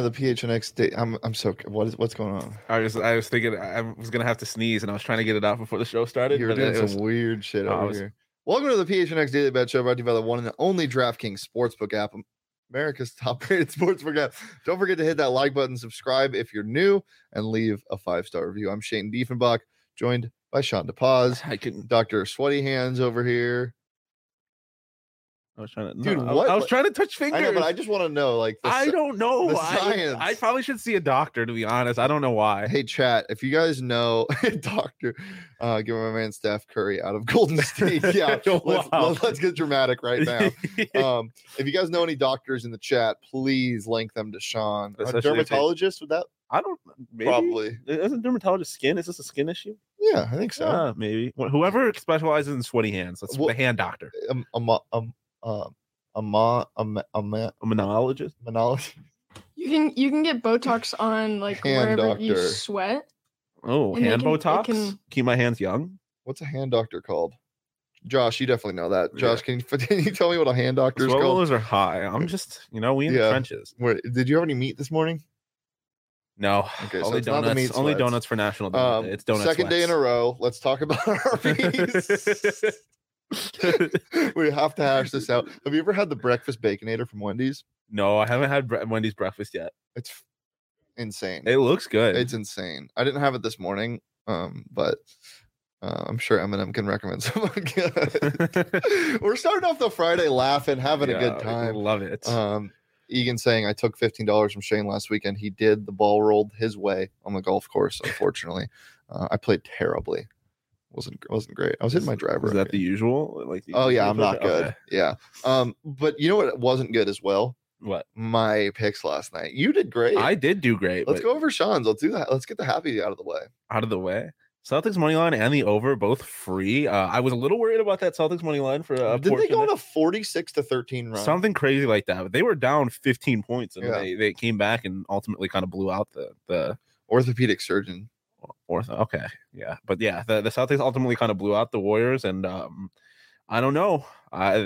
to the PHNX day. I'm so what's going on? I was thinking I was gonna have to sneeze, and I was trying to get it out before the show started. You were doing some weird shit over here. Welcome to the PHNX Daily Bet Show, brought to you by the one and only DraftKings Sportsbook app, America's top-rated sportsbook app. Don't forget to hit that like button, subscribe if you're new, and leave a 5-star review. I'm Shane Diefenbach, joined by Sean DePaz. Dr. Sweaty Hands over here. I was trying to, dude. I what? was trying to touch fingers. I know, but I just want to know, like, I don't know. The science. I probably should see a doctor, to be honest. I don't know why. Hey, chat, if you guys know doctor, give my man Steph Curry out of Golden State. Yeah, let's get dramatic right now. If you guys know any doctors in the chat, please link them to Sean. A dermatologist with that? I don't. Maybe. Probably. Isn't dermatologist skin? Is this a skin issue? Yeah, I think so. Maybe. Whoever specializes in sweaty hands. That's the hand doctor. A monologist. You can get Botox on like hand wherever doctor. you sweat. Oh, hand Botox. Keep my hands young. What's a hand doctor called? Josh, you definitely know that. Josh, can you tell me what a hand doctor is called? Those are high. I'm just, we in the trenches. Did you have any meat this morning? No. Okay, only so donuts. Only donuts for National Donut Day. It's donut Second day in a row. Let's talk about Arby's. We have to hash this out. Have you ever had the breakfast Baconator from Wendy's? No, I haven't had Wendy's breakfast yet. It's insane. It looks good. It's insane. I didn't have it this morning, but I'm sure Eminem can recommend someone good. We're starting off the Friday laughing, having a good time. Love it. Egan saying I took $15 from Shane last weekend. He did. The ball rolled his way on the golf course. Unfortunately, I played terribly. Wasn't great. I was hitting my driver. Is that the usual? I'm not good. Okay. Yeah. But you know what wasn't good as well? What? My picks last night. You did great. I did do great. Let's go over Sean's. Let's do that. Let's get the happy out of the way. Celtics money line and the over, both free. I was a little worried about that Celtics money line for a Didn't they go on a 46-13 run? Something crazy like that. But they were down 15 points and they came back and ultimately kind of blew out the orthopedic surgeon. Okay. Yeah. But yeah, the Celtics ultimately kind of blew out the Warriors. And I don't know. I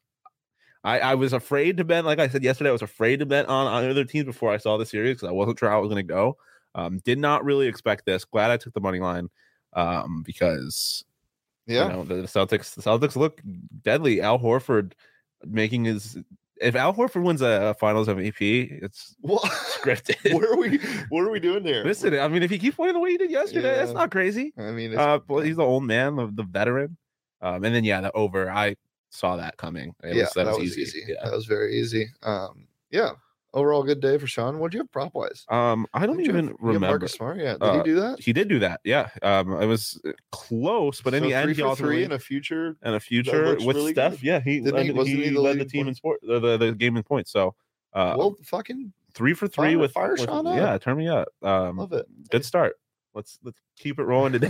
was afraid to bet, like I said yesterday, I was afraid to bet on other teams before I saw the series because I wasn't sure how it was going to go. Did not really expect this. Glad I took the money line because the Celtics look deadly. Al Horford making his. If Al Horford wins a Finals MVP, it's scripted. What are we doing here? Listen, I mean, if he keeps playing the way he did yesterday, that's not crazy. I mean, he's the old man, the veteran. And then the over. I saw that coming. That was easy. Yeah. That was very easy. Overall, good day for Sean. What'd you have prop wise? I don't even remember. Marcus Smart, did he do that? He did do that. Yeah. It was close, but in the end, he also in a future with really Steph. Good. Yeah, he led the team in sport, the game in points. So, fucking 3 for 3 with fire Sean up. Yeah, turn me up. Love it. Good start. Let's keep it rolling today.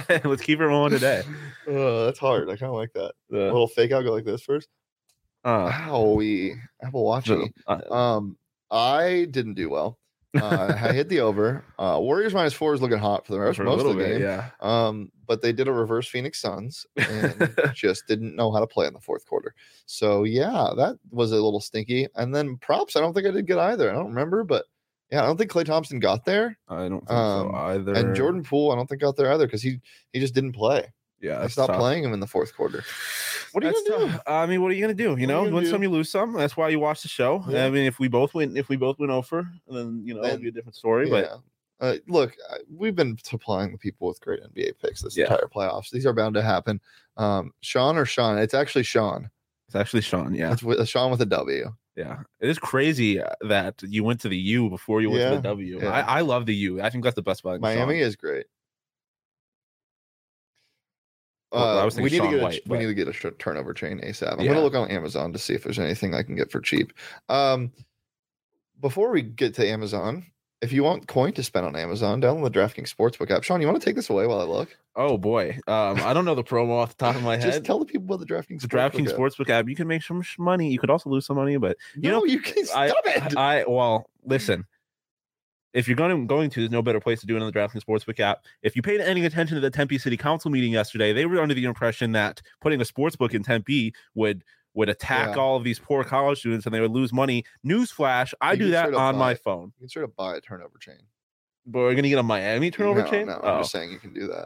That's hard. I kind of like that. A little fake out. Go like this first. Howie, Apple Watching. I didn't do well. I hit the over. Warriors -4 is looking hot for the most of the game. Yeah. But they did a reverse Phoenix Suns and just didn't know how to play in the fourth quarter. So yeah, that was a little stinky. And then props, I don't think I did good either. I don't remember, but yeah, I don't think Klay Thompson got there. I don't think so either. And Jordan Poole, I don't think got there either because he just didn't play. Yeah, I stopped playing him in the fourth quarter. What are you gonna do? I mean, what are you gonna do? You win some, you lose some. That's why you watch the show. Yeah. I mean, if we both win over, then it'll be a different story. Yeah. But look, we've been supplying the people with great NBA picks this entire playoffs. These are bound to happen. Sean or Sean? It's actually Sean. It's actually Sean. Yeah, it's Sean with a W. Yeah, it is crazy that you went to the U before you went to the W. Yeah. I love the U. I think that's the best spot. Miami is great. We need to get a turnover chain ASAP. I'm gonna look on Amazon to see if there's anything I can get for cheap. Before we get to Amazon, if you want coin to spend on Amazon, download the DraftKings Sportsbook app. Sean, you want to take this away while I look? Oh boy, I don't know the promo off the top of my head. Just tell the people about the DraftKings. Sportsbook app. You can make some money. You could also lose some money, but you can stop it. Listen. If you're going to, there's no better place to do it on the DraftKings Sportsbook app. If you paid any attention to the Tempe City Council meeting yesterday, they were under the impression that putting a sportsbook in Tempe would would attack Yeah. all of these poor college students and they would lose money. Newsflash, I do that on my phone. You can sort of buy a turnover chain. But we're gonna get a Miami turnover chain? No, I'm just saying you can do that.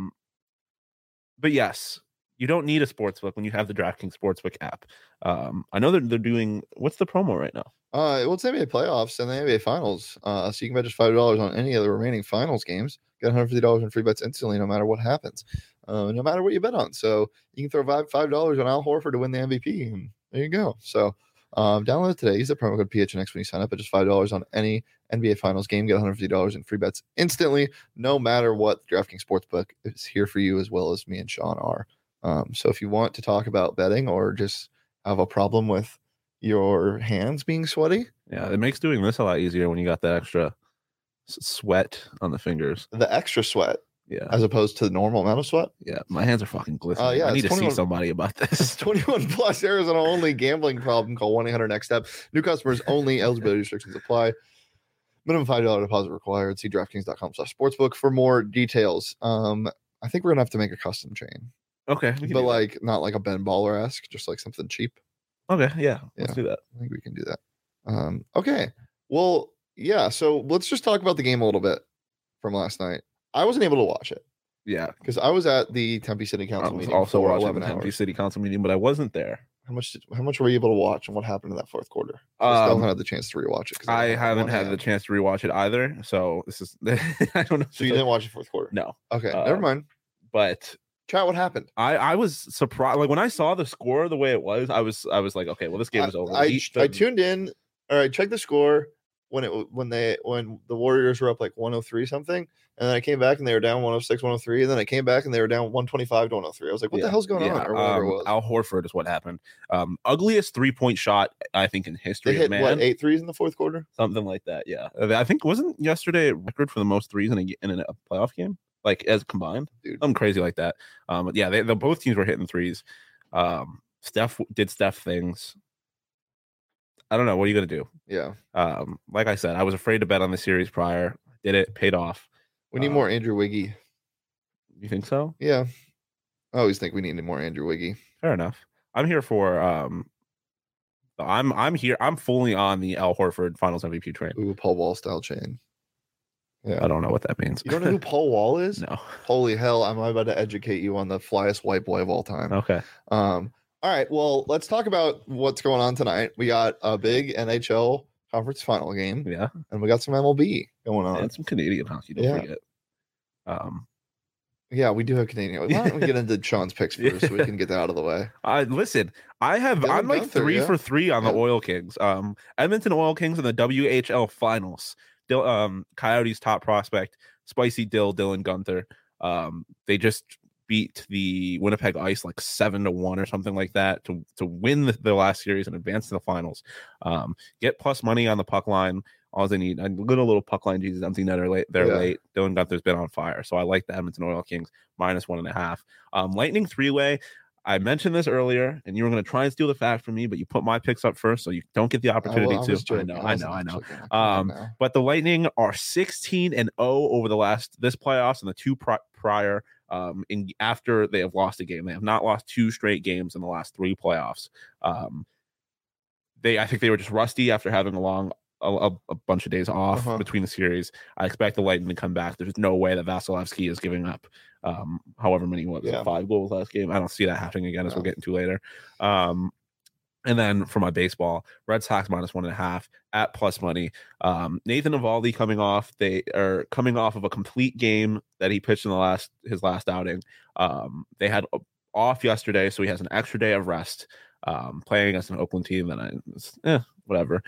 But yes, you don't need a sportsbook when you have the DraftKings Sportsbook app. I know they're doing, what's the promo right now? Well, it's NBA playoffs and the NBA finals. So you can bet just $5 on any of the remaining finals games. Get $150 in free bets instantly, no matter what happens, no matter what you bet on. So you can throw $5 on Al Horford to win the MVP. And there you go. So download it today. Use the promo code PHNX when you sign up at just $5 on any NBA finals game. Get $150 in free bets instantly, no matter what. The DraftKings Sportsbook is here for you, as well as me and Sean are. So if you want to talk about betting or just have a problem with your hands being sweaty, yeah, it makes doing this a lot easier when you got that extra sweat on the fingers. The extra sweat, yeah, as opposed to the normal amount of sweat. Yeah, my hands are fucking glistening. Yeah, I need to see somebody about this. It's 21 plus, Arizona only, gambling problem. Call 1-800-NEXT-STEP. New customers only. Eligibility restrictions apply. Minimum $5 deposit required. See DraftKings.com/sportsbook for more details. I think we're gonna have to make a custom chain. Okay, but like not like a Ben Baller-esque, just like something cheap. Okay, yeah, let's do that. I think we can do that. Okay, well, yeah. So let's just talk about the game a little bit from last night. I wasn't able to watch it. Yeah, because I was at the Tempe City Council meeting. Also watching the Tempe City Council meeting, but I wasn't there. How much were you able to watch, and what happened in that fourth quarter? I still haven't had the chance to rewatch it. I haven't had the chance to rewatch it either. So this is I don't know. So you didn't watch the fourth quarter? No. Okay, never mind. But chat, what happened? I was surprised. Like when I saw the score the way it was, I was like, okay, well this game is over. I tuned in. All right, check the score when the Warriors were up like 103 something, and then I came back and they were down 106, 103, and then I came back and they were down 125 to 103. I was like, what the hell's going on? Or whatever it was. Al Horford is what happened. Ugliest 3-point shot I think in history. They hit what, 8 threes in the fourth quarter, something like that. Yeah, I think wasn't yesterday a record for the most threes in a playoff game, like as combined. Dude, something crazy like that. But yeah, they both teams were hitting threes. Steph did Steph things. I don't know. What are you going to do? Yeah. Like I said, I was afraid to bet on the series prior. Did it, paid off. We need more Andrew Wiggy. You think so? Yeah. I always think we need more Andrew Wiggy. Fair enough. I'm here for I'm here. I'm fully on the Al Horford Finals MVP train. Ooh, Paul Wall style chain. Yeah. I don't know what that means. You don't know who Paul Wall is? No. Holy hell, I'm about to educate you on the flyest white boy of all time. Okay. All right, well, let's talk about what's going on tonight. We got a big NHL conference final game. Yeah. And we got some MLB going on. And some Canadian hockey, don't forget. Yeah, we do have Canadian. Why don't we get into Sean's picks first so we can get that out of the way? Listen, I'm like Gunther, 3 for 3 on the Oil Kings. Edmonton Oil Kings in the WHL finals. Coyotes top prospect, Spicy Dylan Gunther. They just beat the Winnipeg Ice like 7-1 or something like that to win the last series and advance to the finals. Get plus money on the puck line. All they need, a little puck line Jesus empty netter late. Late. Dylan Gunther's been on fire, so I like the Edmonton Oil Kings -1.5. Lightning 3-way. I mentioned this earlier, and you were going to try and steal the fact from me, but you put my picks up first, so you don't get the opportunity to. I know. But the Lightning are 16-0 over this playoffs and the two prior. After they have lost a game, they have not lost 2 straight games in the last 3 playoffs. I think they were just rusty after having a bunch of days off between the series. I expect the Lightning to come back. There's no way that Vasilevsky is giving up however many 5 goals last game. I don't see that happening again, as we'll get into later. And then for my baseball, Red Sox -1.5 at plus money. Nathan Eovaldi coming off. They are coming off of a complete game that he pitched in his last outing. They had off yesterday, so he has an extra day of rest. Playing against an Oakland team that whatever.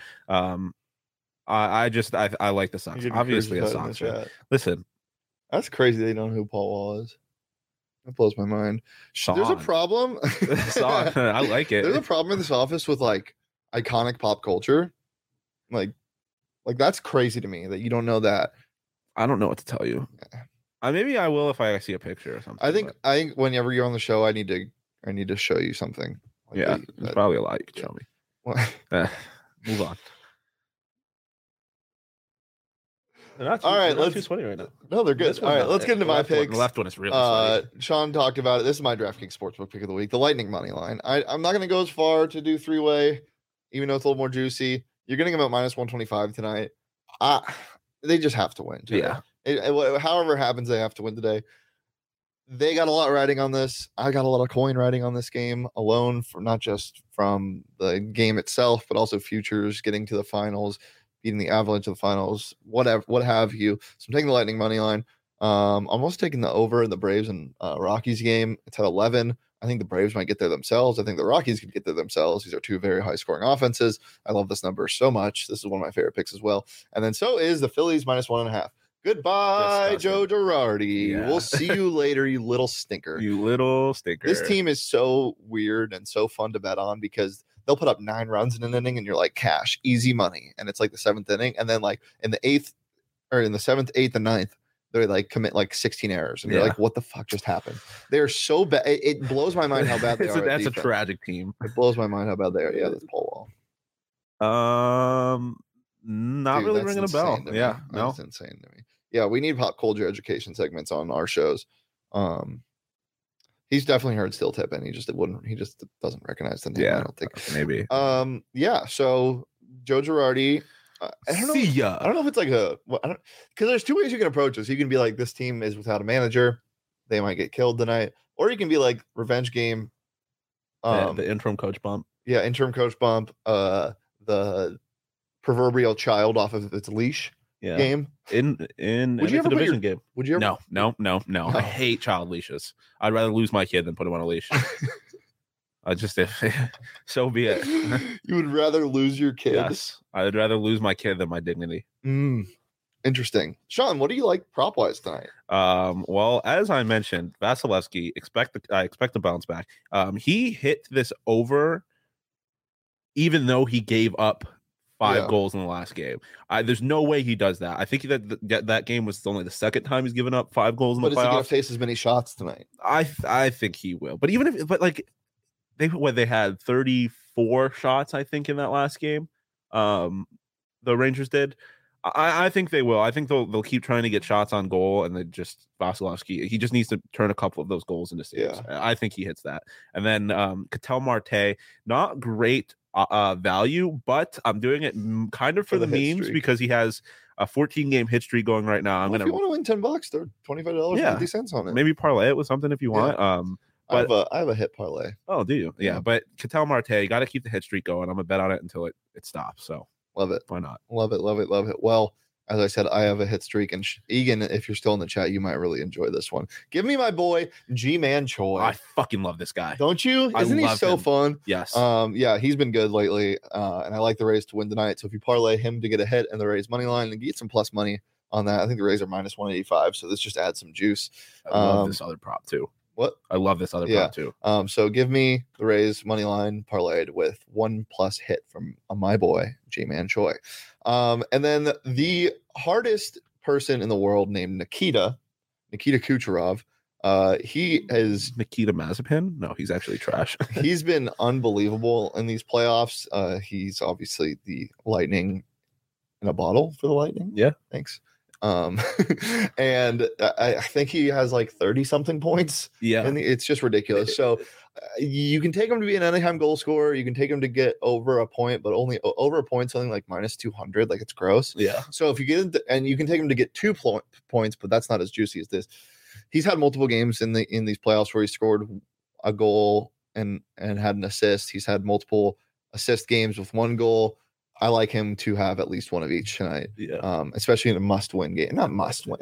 I like the Sox. Obviously a Sox fan. Listen, that's crazy. They don't know who Paul Wall is. That blows my mind. Sean. There's a problem. I like it. There's a problem in this office with like iconic pop culture. Like that's crazy to me that you don't know that. I don't know what to tell you. Maybe I will if I see a picture or something. I think whenever you're on the show, I need to show you something. Like there's probably a lot you can show me. Move on. All right, let's too sweaty right now. No, they're good. All right, let's get into my picks. The left one is really sweaty. Sean talked about it. This is my DraftKings Sportsbook pick of the week, the Lightning money line. I'm not going to go as far to do three-way, even though it's a little more juicy. You're getting them at minus 125 tonight. They just have to win today. Yeah. However it happens, they have to win today. They got a lot riding on this. I got a lot of coin riding on this game alone, for not just from the game itself, but also futures, getting to the finals, beating the Avalanche to the finals, what have you. So I'm taking the Lightning money line. I'm also taking the over in the Braves and Rockies game. It's at 11. I think the Braves might get there themselves. I think the Rockies could get there themselves. These are two very high-scoring offenses. I love this number so much. This is one of my favorite picks as well. And then so is the Phillies minus 1.5. Goodbye, Joe Girardi. Yeah. We'll see you later, you little stinker. You little stinker. This team is so weird and so fun to bet on because they'll put up 9 runs in an inning and you're like, cash, easy money. And it's like the 7th inning. And then like in the 8th or in the 7th, 8th, and 9th, they like commit like 16 errors. And you're like, what the fuck just happened? They're so bad. It blows my mind how bad they are. That's a tragic team. It blows my mind how bad they are. Yeah, that's Paul Wall. Not really ringing a bell. Yeah, no, that's insane to me. Yeah, we need pop culture education segments on our shows. He's definitely heard Steel Tip, and he just doesn't recognize the name. Yeah, I don't think maybe. Yeah. So Joe Girardi. I don't know. See ya. I don't know if it's like because there's two ways you can approach this. You can be like, this team is without a manager, they might get killed tonight, or you can be like, revenge game. The interim coach bump. Yeah, interim coach bump. The proverbial child off of its leash. Yeah. Game in would you ever division game. Would you ever? No. I hate child leashes. I'd rather lose my kid than put him on a leash. So be it. You would rather lose your kid? Yes, I would rather lose my kid than my dignity. Interesting. Sean, what do you like prop wise tonight? Well, as I mentioned, Vasilevsky, I expect to bounce back. He hit this over, even though he gave up 5 goals in the last game. There's no way he does that. I think that game was only the second time he's given up 5 goals in the playoffs. But is he going to face as many shots tonight? I think he will. But even if, they had 34 shots, I think, in that last game. The Rangers did. I think they will. I think they'll keep trying to get shots on goal, and then just Vasilevsky. He just needs to turn a couple of those goals into saves. Yeah. I think he hits that. And then Ketel Marte, not great value, but I'm doing it kind of for the memes streak, because he has a 14-game hit streak going right now. If you want to win $10, they're $25.50 on it. Maybe parlay it with something if you want. But I have a hit parlay. Oh, do you? Yeah. But Ketel Marte, you got to keep the hit streak going. I'm gonna bet on it until it stops. So love it. Why not? Love it. Well, as I said, I have a hit streak, and Egan, if you're still in the chat, you might really enjoy this one. Give me my boy Ji-Man Choi. I fucking love this guy. Don't you? Isn't he so fun? Yes. Yeah, he's been good lately, and I like the Rays to win tonight. So if you parlay him to get a hit and the Rays money line and get some plus money on that, I think the Rays are minus 185. So this just adds some juice. I love this other prop too. What? I love this other prop too. So give me the Rays money line parlayed with 1+ hit from my boy Ji-Man Choi. And then the hardest person in the world named Nikita Kucherov. He is Nikita Mazepin. No, he's actually trash. He's been unbelievable in these playoffs. He's obviously the lightning in a bottle for the Lightning. Yeah. Thanks. And I think he has like 30 something points. Yeah. And it's just ridiculous. So you can take him to be an anytime goal scorer. You can take him to get over a point, but only over a point, something like minus 200. Like, it's gross. Yeah. So if you get into, and you can take him to get 2 points, but that's not as juicy as this. He's had multiple games in these playoffs where he scored a goal and had an assist. He's had multiple assist games with 1 goal. I like him to have at least 1 of each tonight. Yeah. Especially in a must-win game. Not must-win.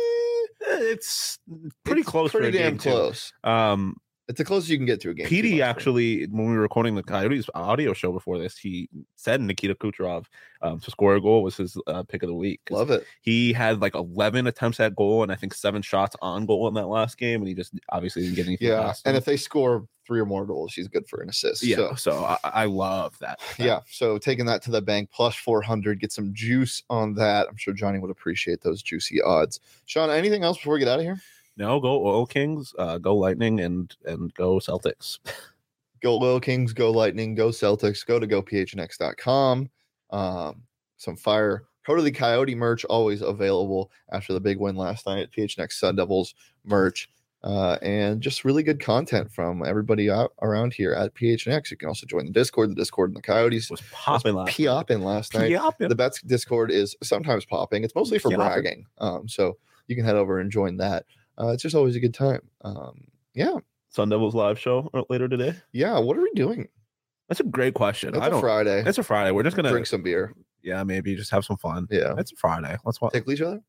It's pretty close. Pretty damn close. It's the closest you can get to a game. PD actually, when we were recording the Coyotes audio show before this, he said Nikita Kucherov to score a goal was his pick of the week. Love it. He had like 11 attempts at goal and I think 7 shots on goal in that last game, and he just obviously didn't get anything. Yeah, and if they score 3 or more goals, he's good for an assist. Yeah, so I love that. Yeah, so taking that to the bank plus 400, get some juice on that. I'm sure Johnny would appreciate those juicy odds. Sean, anything else before we get out of here? No, go Oil Kings, go Lightning, and go Celtics. Go Oil Kings, go Lightning, go Celtics, go to gophnx.com. Some fire Totally Coyote merch always available after the big win last night at PHNX Sun Devils merch. And just really good content from everybody out around here at PHNX. You can also join the Discord. The Discord and the Coyotes was popping last night. The Bets Discord is sometimes popping. It's mostly for bragging. So you can head over and join that. It's just always a good time. Yeah. Sun Devils live show later today. Yeah. What are we doing? That's a great question. It's a Friday. It's a Friday. We're just gonna drink some beer. Yeah, maybe just have some fun. Yeah. It's a Friday. Let's watch. Tickle each other.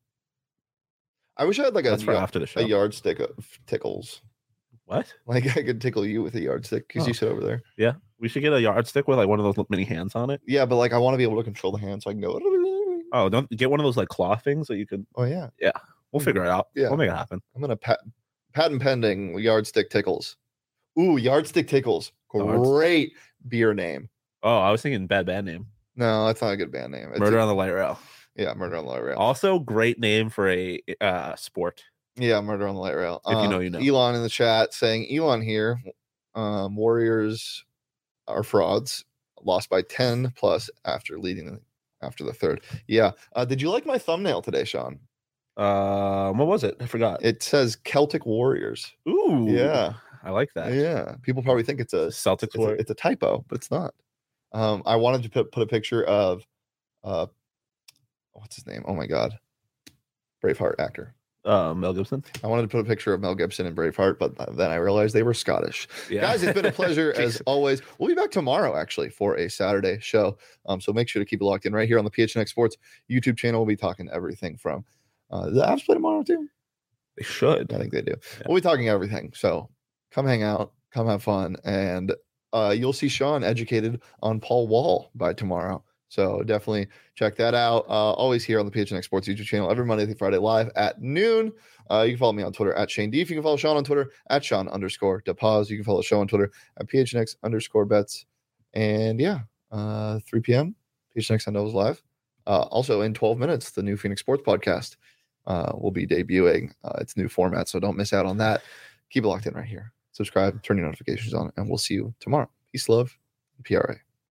I wish I had like after the show. A yardstick of tickles. What? Like I could tickle you with a yardstick because you sit over there. Yeah, we should get a yardstick with like one of those mini hands on it. Yeah, but like I want to be able to control the hand so I can go. Oh, don't get one of those like claw things that you could. Oh yeah. Yeah, we'll figure it out. Yeah, we'll make it happen. I'm gonna patent pending yardstick tickles. Ooh, yardstick tickles. Great beer name. Oh, I was thinking bad name. No, that's not a good band name. Murder on the Light Rail. Yeah, Murder on the Light Rail. Also, great name for a sport. Yeah, Murder on the Light Rail. If you know, you know. Elon in the chat saying, Elon here, Warriors are frauds. Lost by 10 plus after the third. Yeah. Did you like my thumbnail today, Sean? What was it? I forgot. It says Celtic Warriors. Ooh. Yeah. I like that. Yeah. People probably think it's a Celtics Warriors. It's a typo, but it's not. I wanted to put a picture of what's his name? Oh my god. Braveheart actor. Mel Gibson. I wanted to put a picture of Mel Gibson and Braveheart, but then I realized they were Scottish. Yeah. Guys, it's been a pleasure as always. We'll be back tomorrow actually for a Saturday show. So make sure to keep it locked in right here on the PHNX Sports YouTube channel. We'll be talking everything from the Avs play tomorrow too. They should. I think they do. Yeah. We'll be talking everything. So come hang out, come have fun, and you'll see Sean educated on Paul Wall by tomorrow. So definitely check that out. Always here on the PHNX Sports YouTube channel every Monday through Friday live at noon. You can follow me on Twitter at Shane Deef. You can follow Sean on Twitter at Sean_DePaz. You can follow the show on Twitter at PHNX_bets. And yeah, 3 p.m. PHNX Sun Devils live. Also in 12 minutes, the new Phoenix Sports podcast will be debuting its new format. So don't miss out on that. Keep it locked in right here. Subscribe, turn your notifications on, and we'll see you tomorrow. Peace, love, and PRA.